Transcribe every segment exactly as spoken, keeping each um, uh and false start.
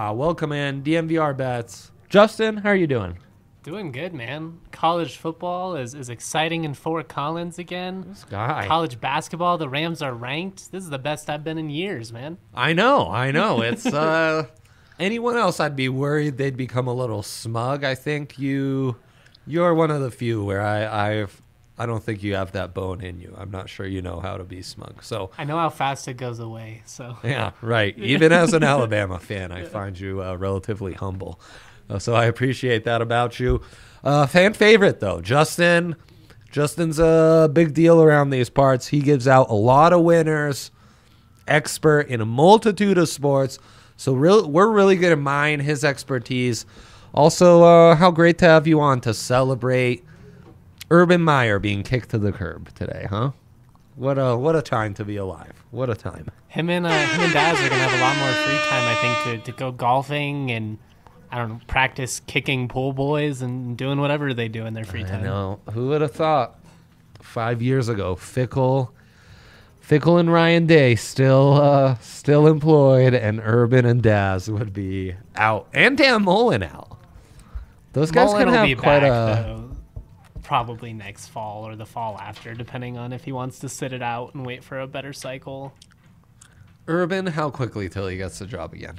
Uh, welcome in, D M V R Bets. Justin, how are you doing? Doing good, man. College football is, is exciting in Fort Collins again. This guy. College basketball, the Rams are ranked. This is the best I've been in years, man. I know, I know. It's uh, anyone else, I'd be worried they'd become a little smug. I think you, you're one of the few where I, I've, I don't think you have that bone in you. I'm not sure you know how to be smug. So I know how fast it goes away. So yeah, right. Even as an Alabama fan, I find you uh, relatively humble. Uh, so I appreciate that about you. Uh, fan favorite, though, Justin. Justin's a big deal around these parts. He gives out a lot of winners, expert in a multitude of sports. So real, we're really going to mine his expertise. Also, uh, how great to have you on to celebrate Urban Meyer being kicked to the curb today, huh? What a what a time to be alive. What a time. Him and, uh, him and Daz are going to have a lot more free time, I think, to, to go golfing and I don't know, practice kicking pool boys and doing whatever they do in their free time. I know. Who would have thought five years ago, Fickle, Fickle and Ryan Day still uh, still employed, and Urban and Daz would be out, and Dan Mullen out. Those guys Mullen can will have be quite back, a though, probably next fall or the fall after, depending on if he wants to sit it out and wait for a better cycle. Urban. How quickly till he gets the job again?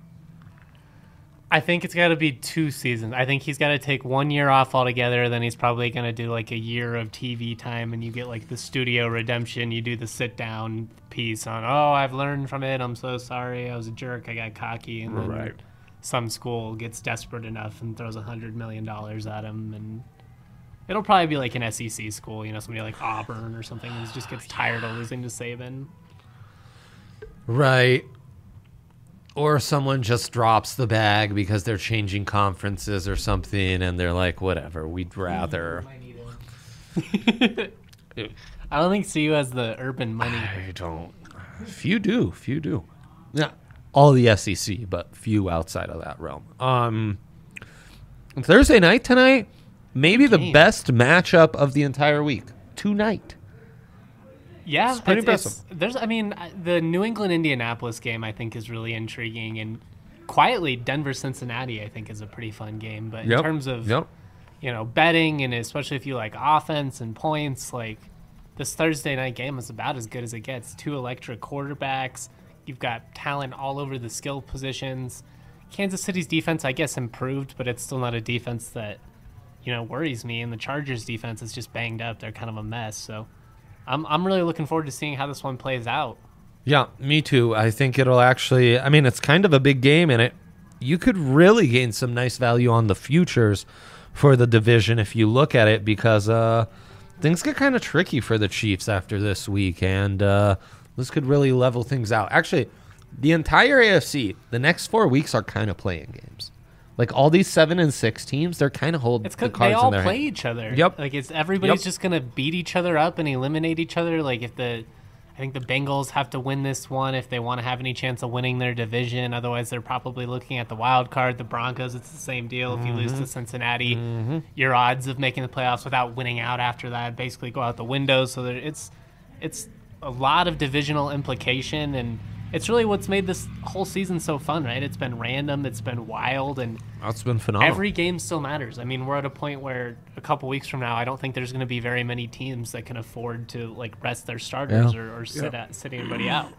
I think it's got to be two seasons. I think he's got to take one year off altogether. Then he's probably going to do like a year of T V time, and you get like the studio redemption. You do the sit down piece on, oh, I've learned from it. I'm so sorry. I was a jerk. I got cocky. And then Right. some school gets desperate enough and throws a hundred million dollars at him, and it'll probably be like an S E C school, you know, somebody like Auburn or something who just gets tired of losing to Saban. Right. Or someone just drops the bag because they're changing conferences or something, and they're like, whatever, we'd rather. I don't think C U has the urban money. I don't. Few do. Few do. Yeah. All the S E C, but few outside of that realm. Um, Thursday night tonight, maybe the Game. best matchup of the entire week. Tonight. Yeah, It's pretty it's- impressive. it's- there's, I mean, the New England-Indianapolis game I think is really intriguing, and quietly Denver-Cincinnati I think is a pretty fun game. But Yep. in terms of Yep. you know betting, and especially if you like offense and points, like this Thursday night game is about as good as it gets. Two electric quarterbacks. You've got talent all over the skill positions. Kansas City's defense, I guess, improved, but it's still not a defense that you know worries me. And the Chargers' defense is just banged up. They're kind of a mess. So I'm I'm really looking forward to seeing how this one plays out. Yeah, me too. I think it'll actually, I mean, it's kind of a big game, and it you could really gain some nice value on the futures for the division if you look at it, because uh, things get kind of tricky for the Chiefs after this week, and uh, this could really level things out. Actually, the entire A F C, the next four weeks are kind of playing games. Like all these seven and six teams, they're kind of hold It's the because cards they all in their play hand. each other. Yep. Like it's everybody's Yep. just gonna beat each other up and eliminate each other. Like if the, I think the Bengals have to win this one if they want to have any chance of winning their division. Otherwise, they're probably looking at the wild card. The Broncos, it's the same deal. If you lose Mm-hmm. to Cincinnati, your odds of making the playoffs without winning out after that basically go out the window. So there, it's, it's a lot of divisional implication, and it's really what's made this whole season so fun, right? It's been random, it's been wild, and That's been phenomenal. every game still matters. I mean, we're at a point where a couple weeks from now, I don't think there's going to be very many teams that can afford to like rest their starters Yeah. or, or sit at, sit anybody out.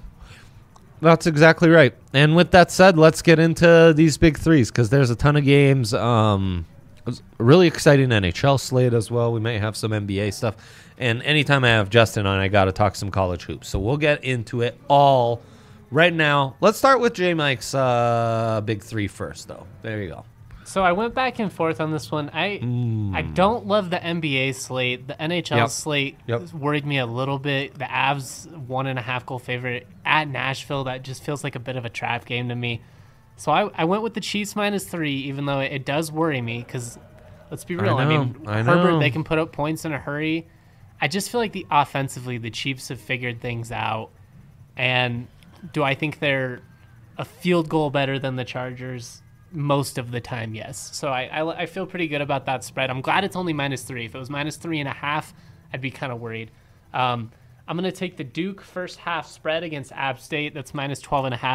That's exactly right. And with that said, let's get into these big threes, because there's a ton of games. Um, it's a really exciting N H L slate as well. We may have some N B A stuff. And anytime I have Justin on, I got to talk some college hoops. So we'll get into it all right now. Let's start with J Mike's uh, big three first, though. There you go. So I went back and forth on this one. I I don't love the N B A slate. The N H L Yep. slate Yep. worried me a little bit. The Avs one and a half goal favorite at Nashville. That just feels like a bit of a trap game to me. So I, I went with the Chiefs minus three, even though it, it does worry me because let's be real. I, know, mean, I Herbert, know. they can put up points in a hurry. I just feel like the offensively, the Chiefs have figured things out. And do I think they're a field goal better than the Chargers? Most of the time, yes. So I, I, I feel pretty good about that spread. I'm glad it's only minus three. If it was minus three and a half, I'd be kind of worried. Um, I'm going to take the Duke first half spread against App State. That's minus twelve and a half.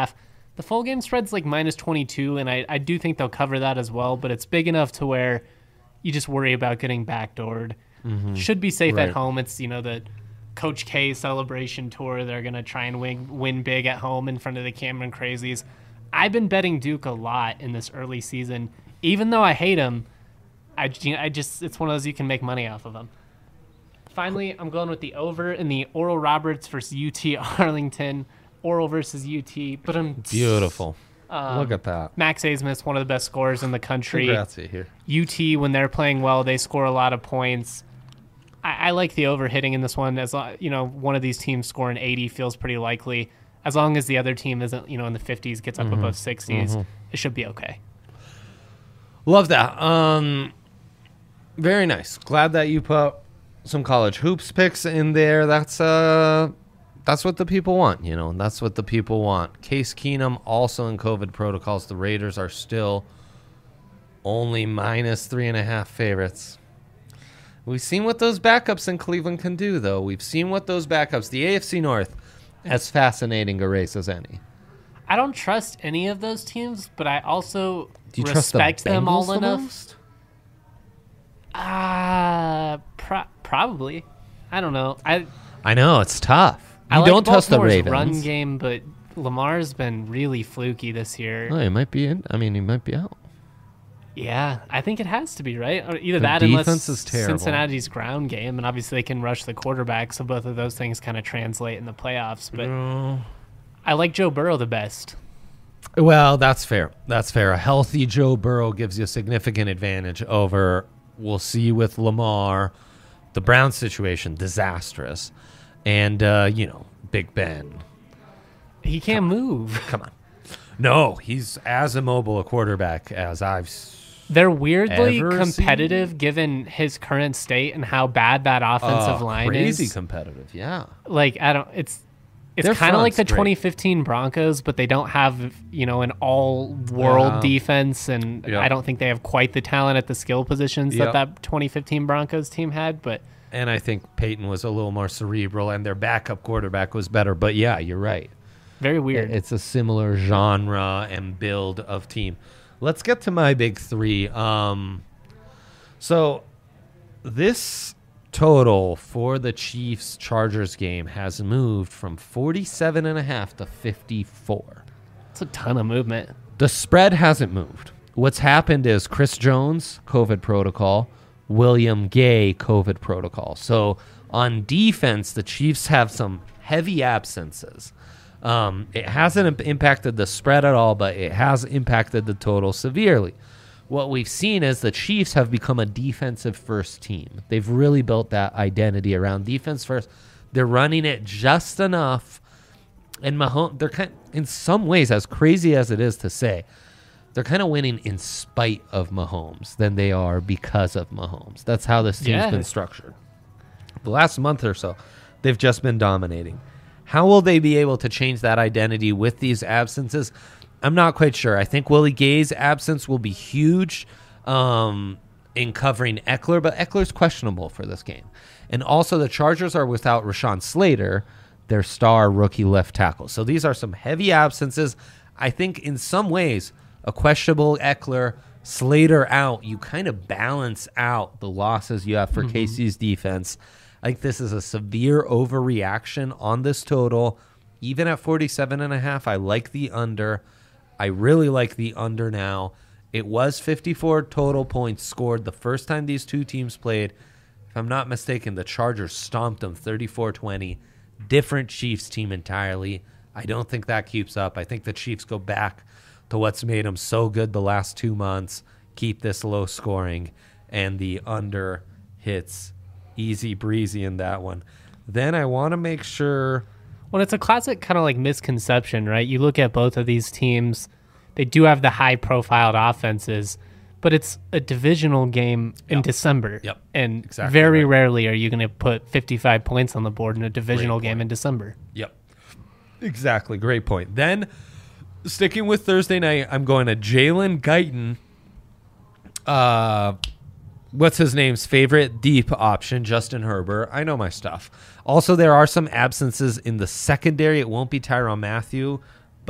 The full game spread's like minus twenty-two, and I, I do think they'll cover that as well, but it's big enough to where you just worry about getting backdoored. Mm-hmm. Should be safe right. at home. It's, you know, the Coach K celebration tour. They're going to try and win, win big at home in front of the Cameron Crazies. I've been betting Duke a lot in this early season. Even though I hate them, I, I just it's one of those you can make money off of them. Finally, I'm going with the over in the Oral Roberts versus U T Arlington. Oral versus U T. But I'm beautiful. Um, Look at that. Max Asmus, one of the best scorers in the country. Congrats here. U T, when they're playing well, they score a lot of points. I, I like the over hitting in this one. As you know, one of these teams scoring eighty feels pretty likely. As long as the other team isn't, you know, in the fifties, gets up mm-hmm. above sixties, mm-hmm. it should be okay. Love that. Um, very nice. Glad that you put some college hoops picks in there. That's uh, that's what the people want, you know. That's what the people want. Case Keenum also in COVID protocols. The Raiders are still only minus three and a half favorites. We've seen what those backups in Cleveland can do, though. We've seen what those backups, the A F C North, as fascinating a race as any. I don't trust any of those teams, but I also do you respect trust the them all the enough. Ah, uh, pro- probably. I don't know. I I know it's tough. You I like don't trust the Baltimore's Ravens. Run game, but Lamar's been really fluky this year. Oh, he might be in. I mean, he might be out. Yeah, I think it has to be, right? Or either the that, defense unless is terrible. Cincinnati's ground game, and obviously they can rush the quarterback, so both of those things kind of translate in the playoffs. But no. I like Joe Burrow the best. Well, that's fair. That's fair. A healthy Joe Burrow gives you a significant advantage over, we'll see with Lamar, the Browns situation, disastrous. And, uh, you know, Big Ben. He can't Come move. Come on. No, he's as immobile a quarterback as I've They're weirdly ever competitive seen. given his current state and how bad that offensive uh, line crazy is. Crazy competitive, yeah. Like, I don't, it's, it's Their kind of like the front's great. twenty fifteen Broncos, but they don't have, you know, an all-world Yeah. defense, and Yeah. I don't think they have quite the talent at the skill positions Yeah. that that twenty fifteen Broncos team had, but... And I think Peyton was a little more cerebral, and their backup quarterback was better. But, yeah, you're right. Very weird. It's a similar genre and build of team. Let's get to my big three. Um, so this total for the Chiefs-Chargers game has moved from forty-seven and a half to fifty-four. It's a ton of movement. The spread hasn't moved. What's happened is Chris Jones, COVID protocol, William Gay, COVID protocol. So on defense, the Chiefs have some heavy absences. Um, it hasn't imp- impacted the spread at all, but it has impacted the total severely. What we've seen is the Chiefs have become a defensive first team. They've really built that identity around defense first. They're running it just enough. And Mahomes, they're kind in some ways, as crazy as it is to say, they're kind of winning in spite of Mahomes than they are because of Mahomes. That's how this team's Yeah. been structured. The last month or so, they've just been dominating. How will they be able to change that identity with these absences? I'm not quite sure. I think Willie Gay's absence will be huge um, in covering Eckler, but Eckler's questionable for this game. And also the Chargers are without Rashawn Slater, their star rookie left tackle. So these are some heavy absences. I think in some ways, a questionable Eckler, Slater out, you kind of balance out the losses you have for mm-hmm. K C's defense. I think this is a severe overreaction on this total. Even at forty-seven and a half, I like the under. I really like the under now. It was fifty-four total points scored the first time these two teams played. If I'm not mistaken, the Chargers stomped them thirty-four twenty. Different Chiefs team entirely. I don't think that keeps up. I think the Chiefs go back to what's made them so good the last two months, keep this low scoring, and the under hits easy breezy in that one. Then I want to make sure... Well, it's a classic kind of like misconception, right? You look at both of these teams, they do have the high-profiled offenses, but it's a divisional game in Yep. December. Yep. And Exactly very right. rarely are you going to put fifty-five points on the board in a divisional Great game point. in December. Yep. Exactly. Great point. Then, sticking with Thursday night, I'm going to Jalen Guyton. Uh, what's his name's favorite deep option, Justin Herbert. I know my stuff. Also, there are some absences in the secondary. It won't be Tyrann Mathieu,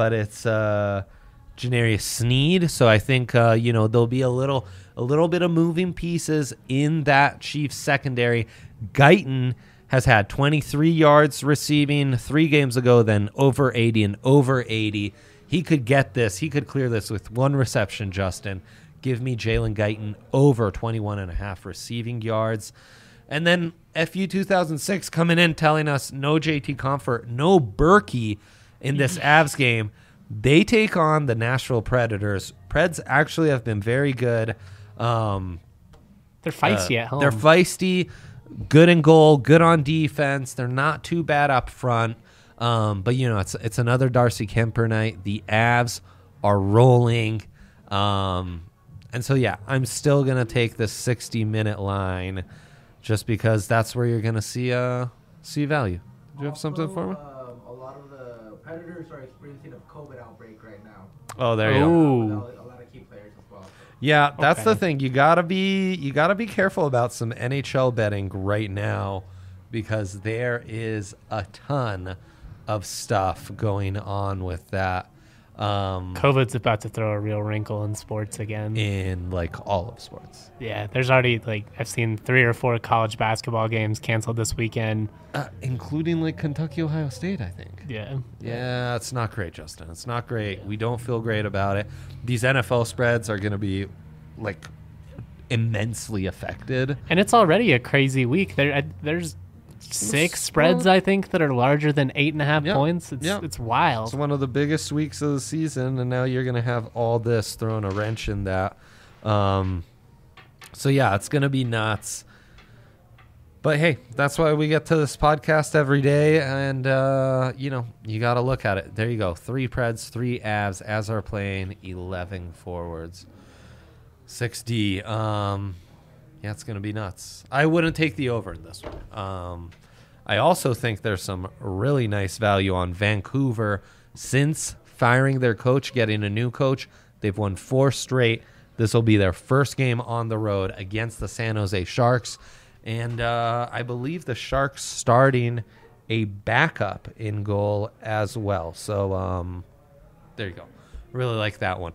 but it's uh, Janarius Sneed. So I think uh, you know there'll be a little a little bit of moving pieces in that Chiefs secondary. Guyton has had twenty-three yards receiving three games ago, then over eighty and over eighty. He could get this. He could clear this with one reception, Justin. Give me Jalen Guyton over twenty-one and a half receiving yards. And then F U two thousand six coming in telling us no J T Comfort, no Berkey in this Avs game. They take on the Nashville Predators. Preds actually have been very good. Um, they're feisty uh, at home. They're feisty, good in goal, good on defense. They're not too bad up front. Um, but, you know, it's it's another Darcy Kemper night. The Avs are rolling. Um, and so, yeah, I'm still going to take the sixty-minute line just because that's where you're going to see uh, see value. Do you have something for me? Um, a lot of the Predators are experiencing a COVID outbreak right now. Oh, there you go. Ooh. A lot of key players as well. Yeah, that's Okay. the thing. You gotta be you gotta be careful about some N H L betting right now because there is a ton of stuff going on with that. Um, COVID's about to throw a real wrinkle in sports again. in like all of sports. Yeah, there's already like I've seen three or four college basketball games canceled this weekend. Uh, including like Kentucky, Ohio State, I think. Yeah. Yeah, it's not great, Justin. It's not great. We don't feel great about it. These N F L spreads are going to be like immensely affected. And it's already a crazy week. There, I, there's six spreads I think that are larger than eight and a half Yeah. points. It's Yeah. it's wild. It's one of the biggest weeks of the season, and now you're going to have all this throwing a wrench in that. Um, so, yeah, it's going to be nuts. But, hey, that's why we get to this podcast every day, and, uh, you know, you got to look at it. There you go. Three Preds, three Avs, as are playing eleven forwards. six D. Um, yeah, it's going to be nuts. I wouldn't take the over in this one. Um, I also think there's some really nice value on Vancouver. Since firing their coach, getting a new coach, they've won four straight. This will be their first game on the road against the San Jose Sharks. And uh, I believe the Sharks starting a backup in goal as well. So um, there you go. Really like that one.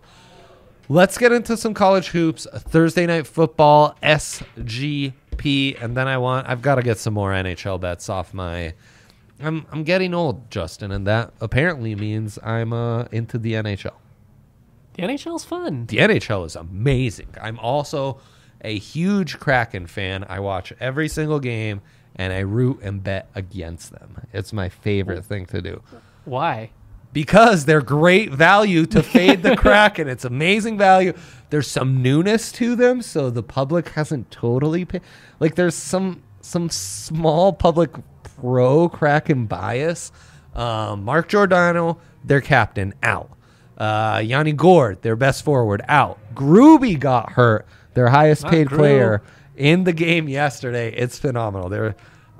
Let's get into some college hoops. Thursday night football, S G P, and then I want I've got to get some more N H L bets off my. I'm I'm getting old, Justin, and that apparently means I'm uh, into the N H L. The N H L's fun. The N H L is amazing. I'm also a huge Kraken fan. I watch every single game, and I root and bet against them. It's my favorite thing to do. Why? Because they're great value to fade the Kraken. It's amazing value. There's some newness to them, so the public hasn't totally paid. Like, there's some some small public pro-Kraken bias. Um, Mark Giordano, their captain, out. Uh, Yanni Gord, their best forward, out. Groovy got hurt, their highest Not paid Gru. player in the game yesterday. It's phenomenal. They're,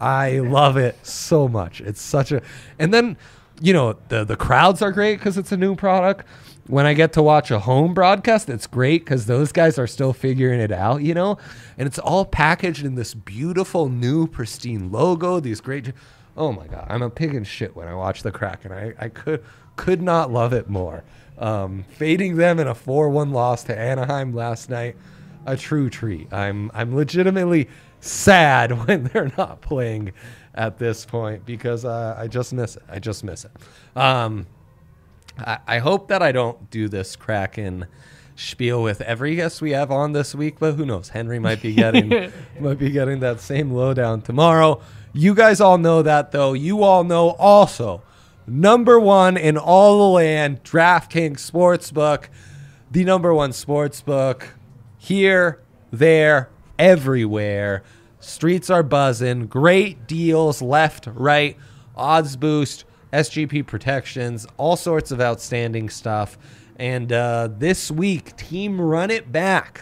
I love it so much. It's such a... And then... You know, the the crowds are great because it's a new product. When I get to watch a home broadcast, it's great because those guys are still figuring it out, you know? And it's all packaged in this beautiful, new, pristine logo. These great... Oh, my God. I'm a pig in shit when I watch the Kraken. I, I could could not love it more. Um, fading them in a four one loss to Anaheim last night, a true treat. I'm I'm legitimately sad when they're not playing at this point because uh, I just miss it. I just miss it. Um, I, I hope that I don't do this Kraken spiel with every guest we have on this week, but who knows? Henry might be getting might be getting that same lowdown tomorrow. You guys all know that, though. You all know also number one in all the land, DraftKings Sportsbook, the number one sportsbook here, there, everywhere. Streets are buzzing. Great deals left, right, odds boost, S G P protections, all sorts of outstanding stuff. And uh, this week, Team Run It Back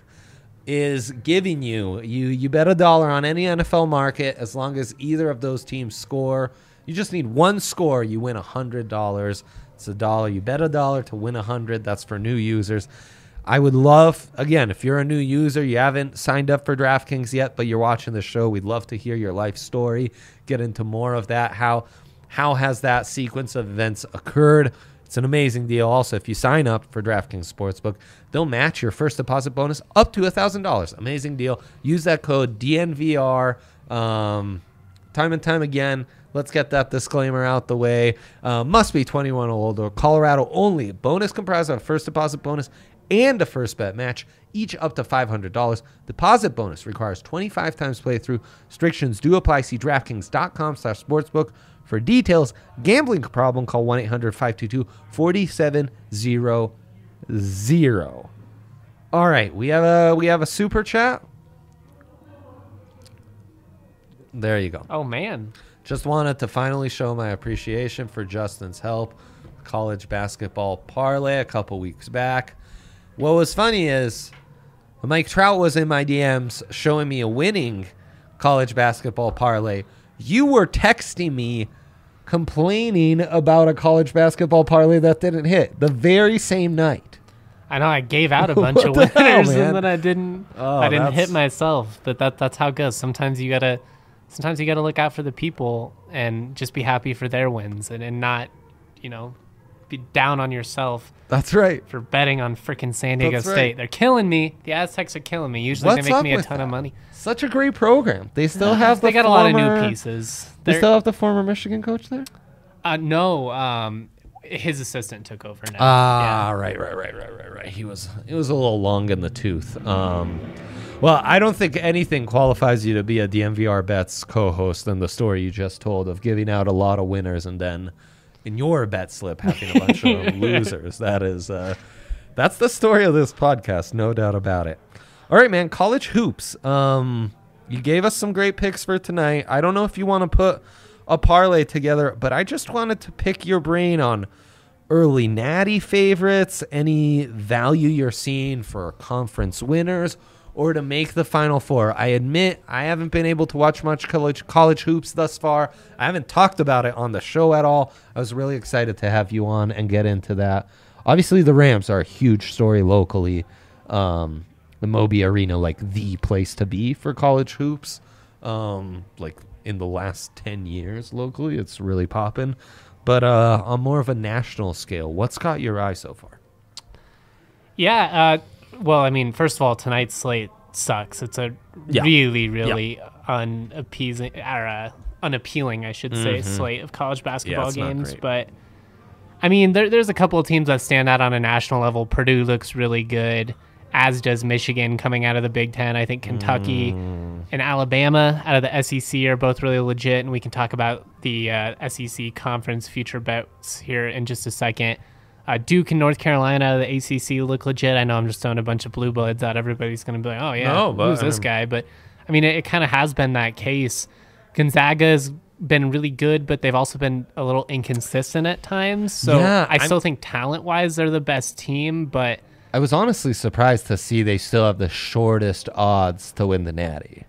is giving you, you, you bet a dollar on any N F L market as long as either of those teams score. You just need one score. You win one hundred dollars. It's a dollar. You bet a dollar to win one hundred dollars. That's for new users. I would love, again, if you're a new user, you haven't signed up for DraftKings yet, but you're watching the show, we'd love to hear your life story, get into more of that. How how has that sequence of events occurred? It's an amazing deal. Also, if you sign up for DraftKings Sportsbook, they'll match your first deposit bonus up to one thousand dollars. Amazing deal. Use that code D N V R um, time and time again. Let's get that disclaimer out the way. Uh, must be twenty-one or older. Colorado only. Bonus comprised of a first deposit bonus and a first bet match, each up to five hundred dollars. Deposit bonus requires twenty-five times playthrough. Restrictions do apply. See DraftKings.com slash sportsbook for details. Gambling problem, call one eight hundred five two two four seven zero zero. All right, we have a we have a super chat. There you go. Oh, man. Just wanted to finally show my appreciation for Justin's help. College basketball parlay a couple weeks back. What was funny is Mike Trout was in my D Ms showing me a winning college basketball parlay. You were texting me complaining about a college basketball parlay that didn't hit the very same night. I know I gave out a bunch What of the winners hell, man? and then I didn't Oh, I didn't that's- hit myself. But that that's how it goes. Sometimes you gotta sometimes you gotta look out for the people and just be happy for their wins and, and not, you know, be down on yourself That's right. for betting on freaking San Diego That's right. State. They're killing me. The Aztecs are killing me. Usually What's they make up me a with ton that? of money. Such a great program. They still have the they got former, a lot of new pieces. They They're- still have the former Michigan coach there? uh, no, um, his assistant took over now. Ah, right, right, right, right, right, right. He was it was a little long in the tooth. Um, well, I don't think anything qualifies you to be a D M V R Bets co-host than the story you just told of giving out a lot of winners and then in your bet slip having a bunch of losers. That is, uh, that's the story of this podcast, no doubt about it. All right, man. College hoops. Um, you gave us some great picks for tonight. I don't know if you want to put a parlay together, but I just wanted to pick your brain on early natty favorites, any value you're seeing for conference winners, or to make the Final Four. I admit I haven't been able to watch much college college hoops thus far. I haven't talked about it on the show at all. I was really excited to have you on and get into that. Obviously, the Rams are a huge story locally. Um, the Moby Arena, like the place to be for college hoops. Um, like in the last ten years locally, it's really popping. But uh, on more of a national scale, what's caught your eye so far? Yeah. Uh, well, I mean, first of all, tonight's slate sucks. It's a Yeah. really, really unappeasing or uh, unappealing, I should say, Mhm. slate of college basketball it's not games. great. But I mean, there, there's a couple of teams that stand out on a national level. Purdue looks really good, as does Michigan coming out of the Big Ten. I think Kentucky Mm. and Alabama out of the S E C are both really legit, and we can talk about the uh, S E C conference future bets here in just a second. Uh, Duke and North Carolina out of the A C C look legit. I know I'm just throwing a bunch of blue bloods out. Everybody's going to be like, oh, yeah, No, but, who's this um, guy? But, I mean, it, it kind of has been that case. Gonzaga has been really good, but they've also been a little inconsistent at times. So Yeah, I I'm- still think talent-wise they're the best team, but I was honestly surprised to see they still have the shortest odds to win the Natty.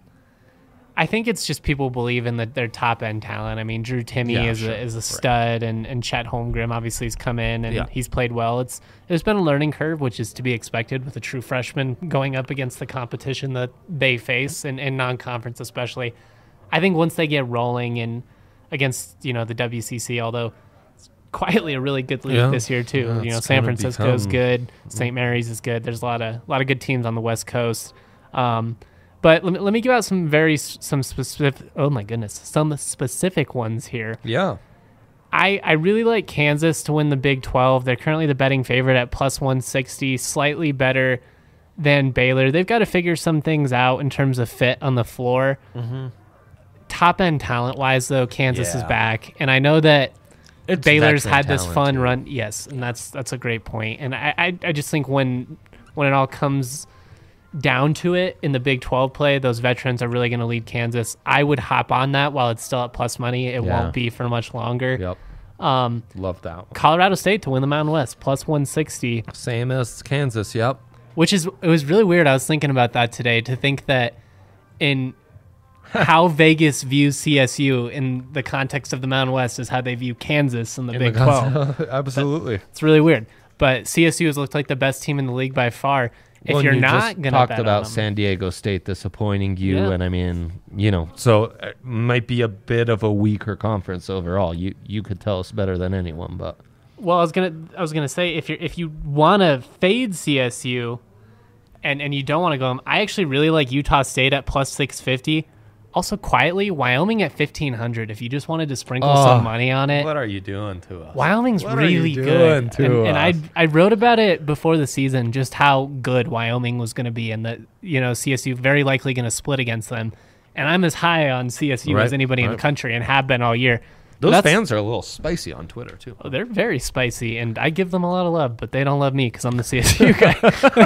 I think it's just people believe in the, their top end talent. I mean, Drew Timme Yeah, is sure. a is a Right. stud, and, and Chet Holmgren obviously has come in and Yeah. he's played well. It's there's been a learning curve, which is to be expected with a true freshman going up against the competition that they face in, in non conference, especially. I think once they get rolling and against you know the W C C, although it's quietly a really good league Yeah. this year too. Yeah, you know, it's San kinda Francisco is become- good, Saint Mary's is good. There's a lot of a lot of good teams on the West Coast. Um, But let me, let me give out some very s- some specific. Oh my goodness, some specific ones here. Yeah. I I really like Kansas to win the Big twelve. They're currently the betting favorite at plus one sixty, slightly better than Baylor. They've got to figure some things out in terms of fit on the floor. Mm-hmm. Top end talent wise, though, Kansas is Yeah. back, and I know that It's Baylor's veteran had this talent, fun too. run. Yes, and that's that's a great point. And I, I I just think when when it all comes down to it in the Big twelve play, those veterans are really going to lead Kansas. I would hop on that while it's still at plus money. It Yeah. won't be for much longer. Yep. Um, Love that one. Colorado State to win the Mountain West plus one sixty, Same as Kansas. Yep. which is it was really weird. I was thinking about that today to think that in how Vegas views C S U in the context of the Mountain West is how they view Kansas in the In Big the twelve. Absolutely. It's really weird. But C S U has looked like the best team in the league by far. If Well, you're you not just going to talked bet about on them, San Diego State disappointing you, Yeah. and I mean, you know, so it might be a bit of a weaker conference overall. You you could tell us better than anyone, but Well, I was gonna I was gonna say if you if you want to fade C S U, and and you don't want to go, I actually really like Utah State at plus six fifty. Also, quietly, Wyoming at fifteen hundred. If you just wanted to sprinkle Oh, some money on it, What are you doing to us? Wyoming's What are you really doing good. to and and I us? I wrote about it before the season, just how good Wyoming was going to be, and that you know C S U very likely going to split against them. And I'm as high on C S U Right, as anybody in right. the country, and have been all year. Those That's- fans are a little spicy on Twitter too. Oh, they're very spicy, and I give them a lot of love, but they don't love me because I'm the C S U guy.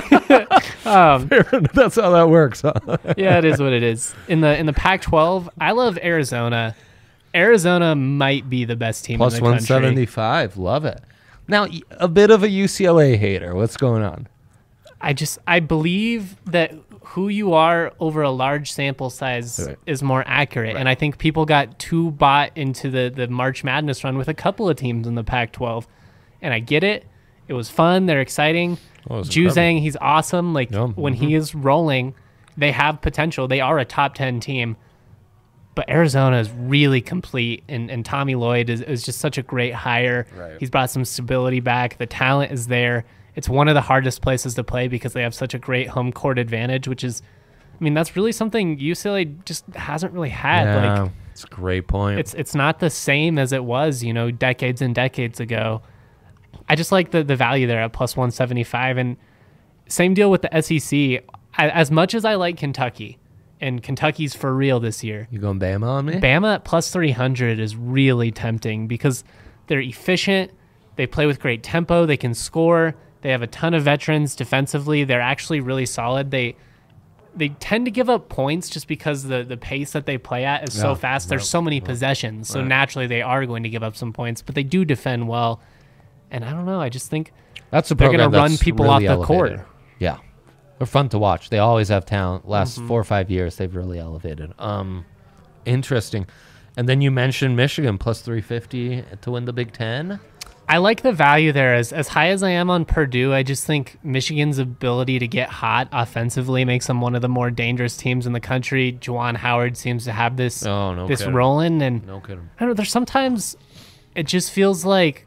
um, That's how that works, huh? yeah, it is what it is. In the in the Pac twelve, I love Arizona. Arizona might be the best team Plus in the one country. seventy-five. Love it. Now, y- a bit of a U C L A hater. What's going on? I just I believe that who you are over a large sample size Right. is more accurate, and I think people got too bought into the the March Madness run with a couple of teams in the Pac twelve, and I get it. It was fun. They're exciting. Oh, it was Juzang, incredible. he's awesome. Like Yeah, when mhm. he is rolling, they have potential. They are a top ten team. But Arizona is really complete, and, and Tommy Lloyd is, is just such a great hire. Right. He's brought some stability back. The talent is there. It's one of the hardest places to play because they have such a great home court advantage, which is, I mean, that's really something U C L A just hasn't really had. Yeah, Like it's a great point. it's it's not the same as it was, you know, decades and decades ago. I just like the the value there at plus one seventy-five, and same deal with the S E C. I, as much as I like Kentucky, and Kentucky's for real this year, you going Bama on me? Bama at plus three hundred is really tempting because they're efficient. They play with great tempo. They can score. They have a ton of veterans defensively. They're actually really solid. They they tend to give up points just because the, the pace that they play at is so Yeah, fast. There's right, so many possessions. So right. naturally they are going to give up some points, but they do defend well. And I don't know. I just think That's a they're program gonna run that's people really off the elevated. court. Yeah, they're fun to watch. They always have talent. Last Mm-hmm. four or five years, they've really elevated. Um, interesting. And then you mentioned Michigan plus three fifty to win the Big Ten. I like the value there. As as high as I am on Purdue, I just think Michigan's ability to get hot offensively makes them one of the more dangerous teams in the country. Juwan Howard seems to have this Oh, no this kidding. rolling, and No kidding. I don't know. There's sometimes it just feels like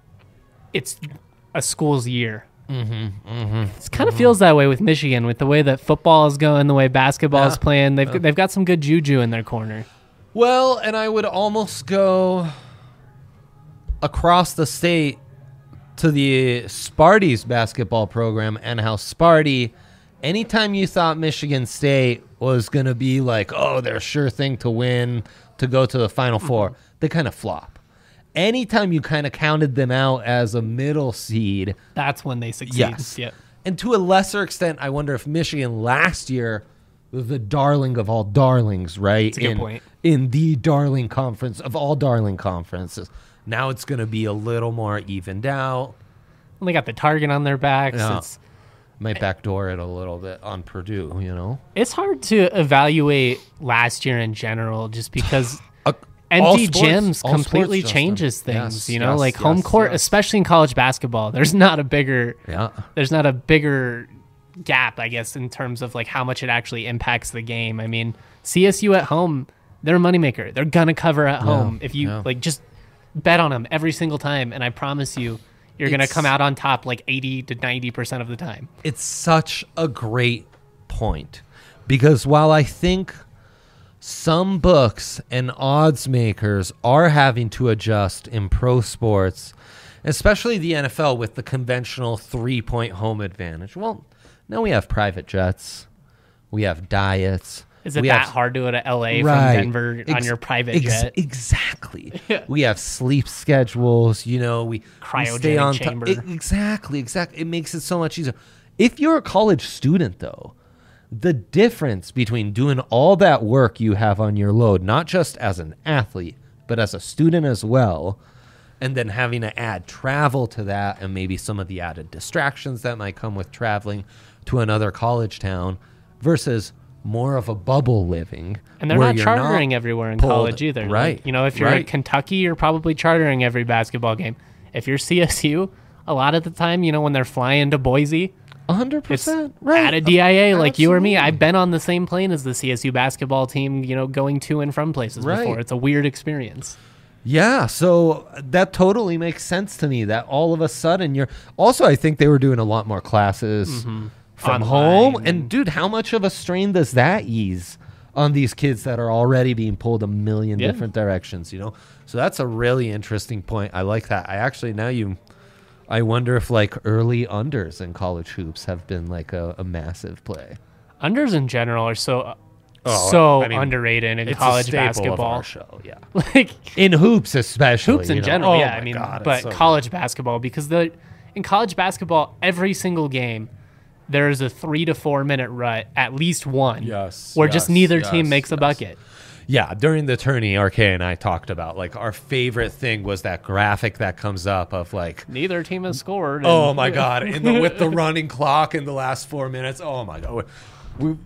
it's a school's year. Mm-hmm, mm-hmm, it kind of feels that way with Michigan, with the way that football is going, the way basketball is Yeah. playing. They've they've got some good juju in their corner. Well, and I would almost go across the state to the Sparty's basketball program, and how Sparty, anytime you thought Michigan State was going to be like, oh, they're a sure thing to win, to go to the Final Four, they kind of flop. Anytime you kind of counted them out as a middle seed, That's when they succeed. yes. Yep. And to a lesser extent, I wonder if Michigan last year was the darling of all darlings, right? That's a good in, point. In the darling conference of all darling conferences. Now it's going to be a little more evened out. Well, they got the target on their backs. Yeah. It's Might backdoor it a little bit on Purdue, you know? it's hard to evaluate last year in general, just because Uh, all empty sports- gyms all completely sports, Justin. changes things. Yes, you know, yes, like home yes, court, yes. especially in college basketball. There's not a bigger Yeah. there's not a bigger gap, I guess, in terms of like how much it actually impacts the game. I mean, C S U at home, they're a moneymaker. They're gonna cover at home. If you yeah. like, just bet on them every single time, and I promise you, you're gonna It's- come out on top like eighty to ninety percent of the time. It's such a great point, because while I think some books and odds makers are having to adjust in pro sports, especially the N F L with the conventional three-point home advantage. Well, now we have private jets, we have diets. Is it we that have- hard to go to L A Right. from Denver on Ex- your private ex- jet? Exactly. We have sleep schedules. You know, we, we stay Cryogenic on top. chamber. Exactly, exactly. It makes it so much easier. If you're a college student, though, the difference between doing all that work you have on your load, not just as an athlete, but as a student as well, and then having to add travel to that, and maybe some of the added distractions that might come with traveling to another college town, versus more of a bubble living. And they're where not you're chartering everyone in pulled- college either. Right. Like, you know, if you're right. at Kentucky, you're probably chartering every basketball game. If you're C S U, a lot of the time, you know, when they're flying to Boise, one hundred it's percent. Right. at a D I A like you or me. Absolutely. I've been on the same plane as the C S U basketball team, you know, going to and from places Right. before. It's a weird experience. Yeah, so that totally makes sense to me that all of a sudden you're also I think they were doing a lot more classes Mm-hmm. from Online home and- and dude, how much of a strain does that ease on these kids that are already being pulled a million Yeah. different directions, you know? So that's a really interesting point. I like that. I actually now you I wonder if like early unders in college hoops have been like a, a massive play. Unders in general are so Oh, so I mean, underrated in It's college a staple basketball. of our show, yeah. Like In hoops especially. hoops in you know? general, Oh yeah. my I mean, God, it's but so college basketball, because the in college basketball, every single game, there is a three to four minute rut, at least one, Yes, where just yes, neither yes, team makes a yes. bucket. Yeah, during the tourney, R K and I talked about like our favorite thing was that graphic that comes up of like, Neither team has scored. oh and- my god, in the with the running clock in the last four minutes. Oh my god, we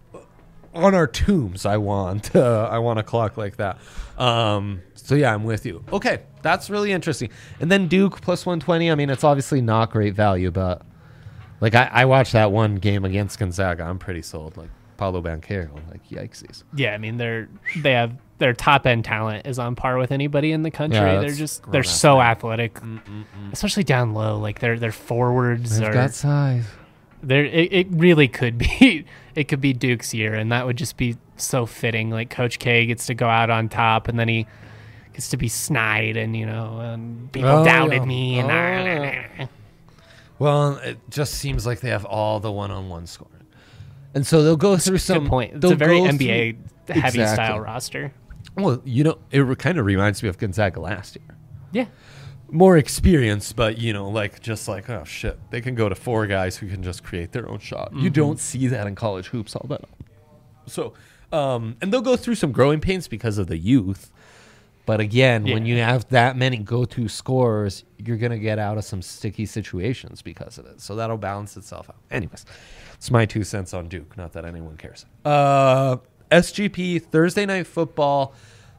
on our tombs. I want uh, I want a clock like that. Um, so yeah, I'm with you. Okay, that's really interesting. And then Duke plus one twenty. I mean, it's obviously not great value, but like I, I watched that one game against Gonzaga. I'm pretty sold. Like Paulo Banchero, like yikesies. Yeah, I mean they're they have their top end talent is on par with anybody in the country. Yeah, they're that's just grown they're up, so man. athletic, especially down low. Like their their forwards They've are got size. there. It, it really could be it could be Duke's year, and that would just be so fitting. Like Coach K gets to go out on top, and then he gets to be snide, and you know, and people Oh, doubted yeah. me, and Oh. Well, it just seems like they have all the one-on-one scoring, and so they'll go through some. good point. It's they'll a very go N B A through- heavy Exactly. style roster. Well, you know, it re- kind of reminds me of Gonzaga last year. Yeah. More experience, but you know, like just like oh shit, they can go to four guys who can just create their own shot. You don't see that in college hoops all that. So, um, and they'll go through some growing pains because of the youth. But again, when Yeah. you have that many go-to scorers, you're gonna get out of some sticky situations because of it. So that'll balance itself out. Anyways, it's my two cents on Duke. Not that anyone cares. Uh, S G P Thursday Night Football.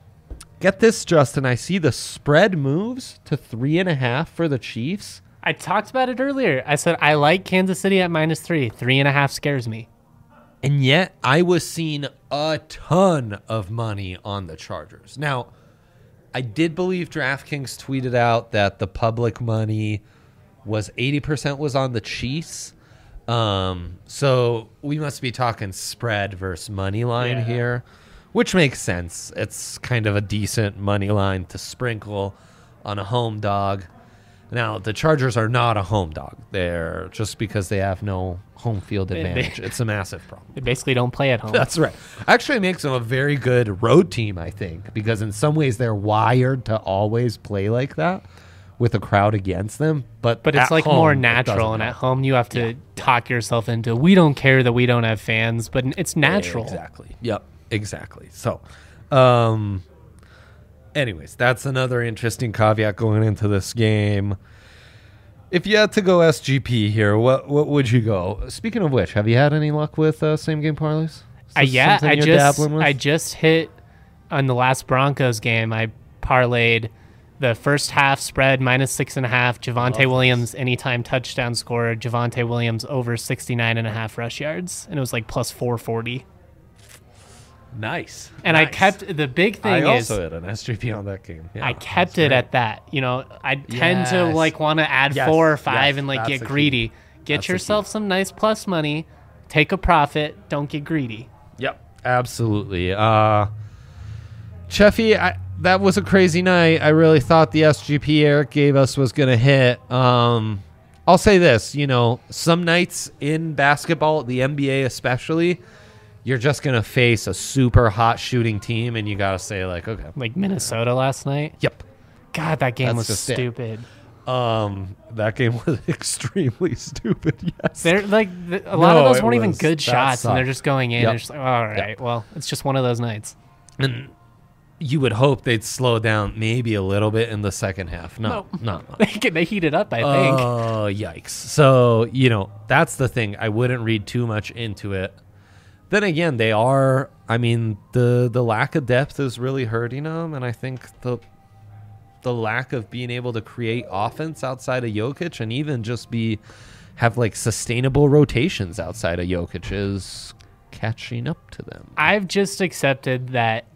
Get this, Justin. I see the spread moves to three and a half for the Chiefs. I talked about it earlier. I said I like Kansas City at minus three. Three and a half scares me. And yet I was seeing a ton of money on the Chargers. Now, I did believe DraftKings tweeted out that the public money was eighty percent was on the Chiefs. Um, so we must be talking spread versus money line Yeah. here, which makes sense. It's kind of a decent money line to sprinkle on a home dog. Now, the Chargers are not a home dog. They're just because they have no home field They- they- advantage. It's a massive problem. They basically don't play at home. That's right. Actually, it makes them a very good road team, I think, because in some ways they're wired to always play like that with a crowd against them. But but it's at like home, more it natural, doesn't and at help. home you have to talk yourself into. We don't care that we don't have fans, but it's natural. Exactly. Yep. Exactly. So, um, anyways, that's another interesting caveat going into this game. If you had to go S G P here, what what would you go? Speaking of which, have you had any luck with uh, same game parlays? Is Uh, this yeah, something I you're just dabbling with? I just hit on the last Broncos game. I parlayed the first half spread minus six and a half. Javante Williams anytime touchdown scorer. Javante Williams over sixty-nine and a half rush yards, and it was like plus four forty. Nice. And I Nice. kept the big thing I is also had an S G P on that game. Yeah, I kept that's it great. at that. You know, I tend to Yes. like want to add Yes, four or five yes, and like that's get the key. greedy. Get That's the yourself key. some nice plus money. Take a profit. Don't get greedy. Yep, absolutely. Uh, Cheffy, I, that was a crazy night. I really thought the S G P Eric gave us was going to hit. Um, I'll say this, you know, some nights in basketball, the N B A especially, you're just going to face a super hot shooting team, and you got to say, like, okay. Like Minnesota last night. Yep. God, that game That's was just it. stupid. Um, that game was extremely stupid, yes. They're like th- a lot No, of those it weren't even was- good that shots, and they're sucked. just going in. Yep. And just like, all right, well, it's just one of those nights. And you would hope they'd slow down maybe a little bit in the second half. No, No. not much. They get- they heated up, I think. Oh, yikes. So, you know, that's the thing. I wouldn't read too much into it. Then again, they are, I mean, the the lack of depth is really hurting them, and I think the the lack of being able to create offense outside of Jokic and even just be have like sustainable rotations outside of Jokic is catching up to them. I've just accepted that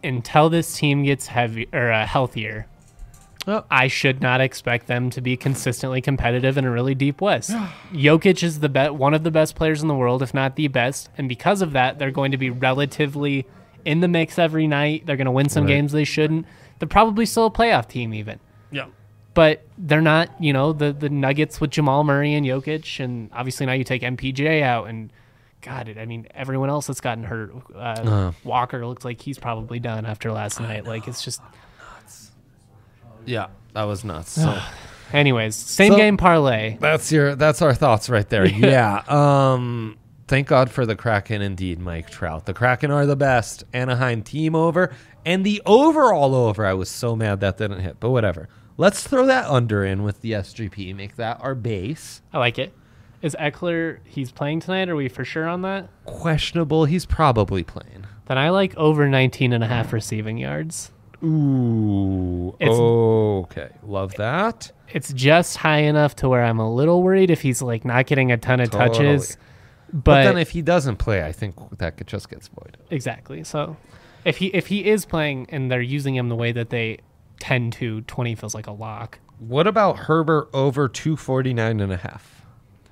until this team gets heavy or uh, healthier, Oh. I should not expect them to be consistently competitive in a really deep West. Jokic is the be- one of the best players in the world, if not the best, and because of that, they're going to be relatively in the mix every night. They're going to win some Right. games they shouldn't. They're probably still a playoff team even. Yeah. But they're not, you know, the, the Nuggets with Jamal Murray and Jokic, and obviously now you take M P J out, and God, it, I mean, everyone else that's gotten hurt. Uh, Uh. Walker looks like he's probably done after last night. Like, it's just... Yeah, that was nuts. So Anyways, same So- game parlay. that's your that's our thoughts right there. Yeah. Um thank God for the Kraken indeed, Mike Trout. The Kraken are the best Anaheim team over, and the overall over. I was so mad that didn't hit, but whatever. Let's throw that under in with the S G P. Make that our base. I like it. Is Eckler, he's playing tonight? Are we for sure on that? Questionable. He's probably playing. Then I like over nineteen and a half receiving yards. Ooh. It's- okay. Love that. It's just high enough to where I'm a little worried if he's like not getting a ton of touches. But, But, then if he doesn't play, I think that could just gets void. exactly. So if he if he is playing and they're using him the way that they tend to, twenty feels like a lock. What about Herbert over two forty-nine and a half?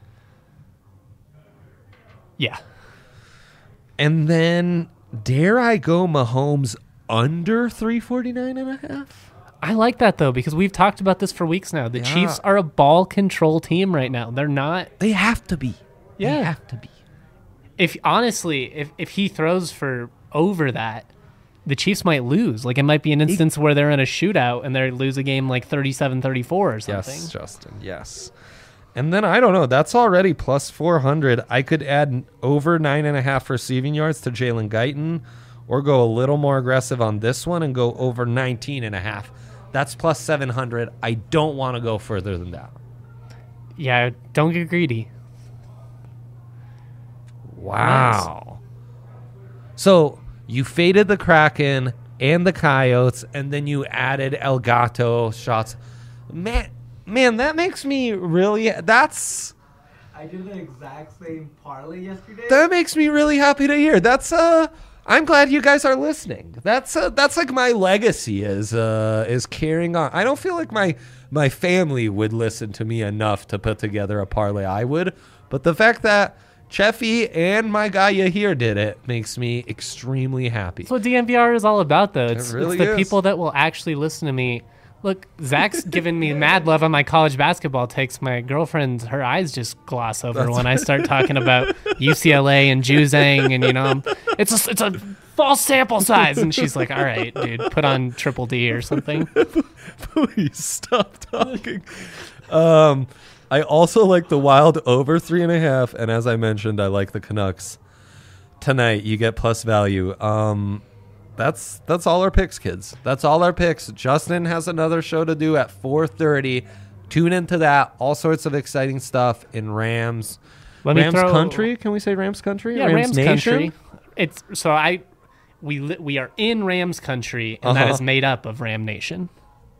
Yeah. And then dare I go Mahomes under three forty-nine and a half? I like that though because we've talked about this for weeks now. The Yeah. Chiefs are a ball control team right now. They're not They have to be. Yeah. They have to be. if honestly, if if he throws for over that, the Chiefs might lose. Like it might be an instance where they're in a shootout and they lose a game like thirty-seven thirty-four or something. Yes, Justin. Yes. And then I don't know. That's already plus four hundred. I could add over nine and a half receiving yards to Jalen Guyton, or go a little more aggressive on this one and go over nineteen and a half. That's plus seven hundred. I don't want to go further than that. Yeah, don't get greedy. Wow. So you faded the Kraken and the Coyotes, and then you added El Gato shots. Man, man, that makes me really. That's I did the exact same parlay yesterday. that makes me really happy to hear. That's uh. I'm glad you guys are listening. That's uh, that's like my legacy is uh is carrying on. I don't feel like my my family would listen to me enough to put together a parlay. I would, but the fact that Cheffy and my guy here did it makes me extremely happy. That's what D M V R is all about, though. It's, really it's the is. people that will actually listen to me. Look, Zach's giving me mad love on my college basketball takes. My girlfriend, her eyes just gloss over when I start talking about U C L A and Juzang, and you know, I'm- it's a it's a false sample size, and she's like, "All right, dude, put on Triple D or something." Please stop talking. Um, I also like the Wild over three and a half, and as I mentioned, I like the Canucks tonight. You get plus value. Um, that's that's all our picks, kids. That's all our picks. Justin has another show to do at four thirty. Tune into that. All sorts of exciting stuff in Rams. Let me Rams throw- country? Can we say Rams country? Yeah, Rams, Nation? country. It's so I we li- we are in Rams country, and that Uh-huh. is made up of Ram Nation.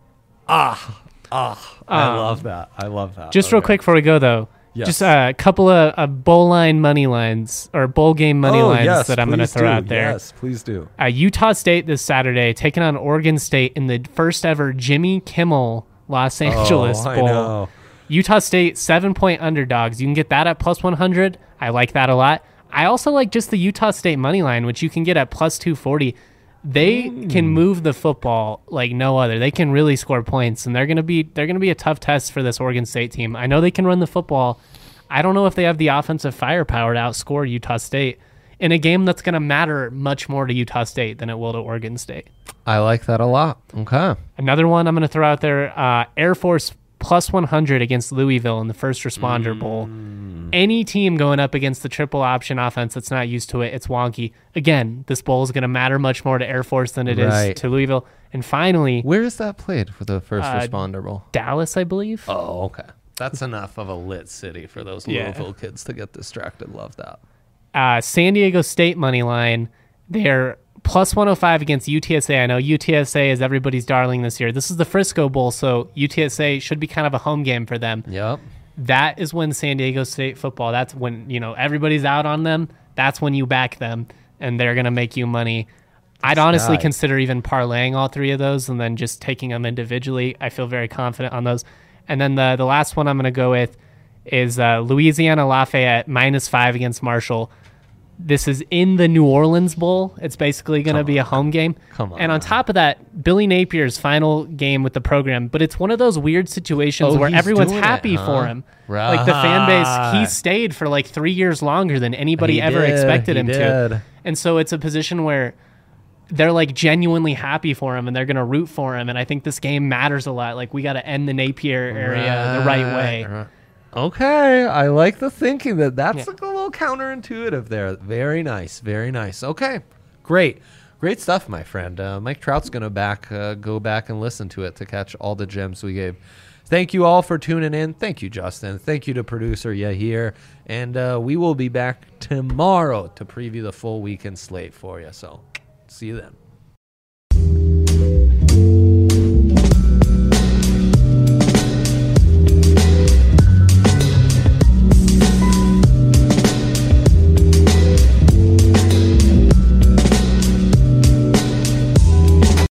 Ah, ah, I Um, love that. I love that. Just real Okay. quick before we go, though, Yes. just a couple of uh, bowl line money lines or bowl game money Oh, lines yes, that I'm going to please throw do. out there. Yes, please do. Uh, Utah State this Saturday taking on Oregon State in the first ever Jimmy Kimmel Los Angeles oh, I Bowl. know. Utah State seven point underdogs. You can get that at plus one hundred. I like that a lot. I also like just the Utah State money line, which you can get at plus two forty. They can move the football like no other. They can really score points, and they're gonna be they're gonna be a tough test for this Oregon State team. I know they can run the football. I don't know if they have the offensive firepower to outscore Utah State in a game that's gonna matter much more to Utah State than it will to Oregon State. I like that a lot. Okay. Another one I'm gonna throw out there: uh, Air Force plus one hundred against Louisville in the First Responder Bowl. Any team going up against the triple option offense that's not used to it, it's wonky. Again, this bowl is going to matter much more to Air Force than it is Right. to Louisville. And finally, Where is that played for the First Uh, Responder Bowl? Dallas, I believe. Oh, okay. That's enough of a lit city for those Yeah. Louisville kids to get distracted. Love that. Uh, San Diego State money line. They're plus one oh five against U T S A. I know U T S A is everybody's darling this year. This is the Frisco Bowl, so U T S A should be kind of a home game for them. Yep. That is when San Diego State football, that's when, you know, everybody's out on them. That's when you back them, and they're going to make you money. I'd honestly guy. consider even parlaying all three of those and then just taking them individually. I feel very confident on those. And then the the last one I'm going to go with is uh, Louisiana Lafayette minus five against Marshall. This is in the New Orleans Bowl. It's basically going to be a home game. Come on. And on top of that, Billy Napier's final game with the program. But it's one of those weird situations Oh, where he's everyone's doing it, happy huh? for him. Like the fan base, he stayed for like three years longer than anybody He ever did, expected he him did. to. And so it's a position where they're like genuinely happy for him and they're going to root for him. And I think this game matters a lot. Like we got to end the Napier area the right way. Right. Okay, I like the thinking that that's Yeah. like a little counterintuitive there. Very nice, very nice. Okay, great, great stuff, my friend. Uh, Mike Trout's gonna back uh, go back and listen to it to catch all the gems we gave. Thank you all for tuning in. Thank you, Justin. Thank you to producer Yahir, and uh, we will be back tomorrow to preview the full weekend slate for you. So, see you then.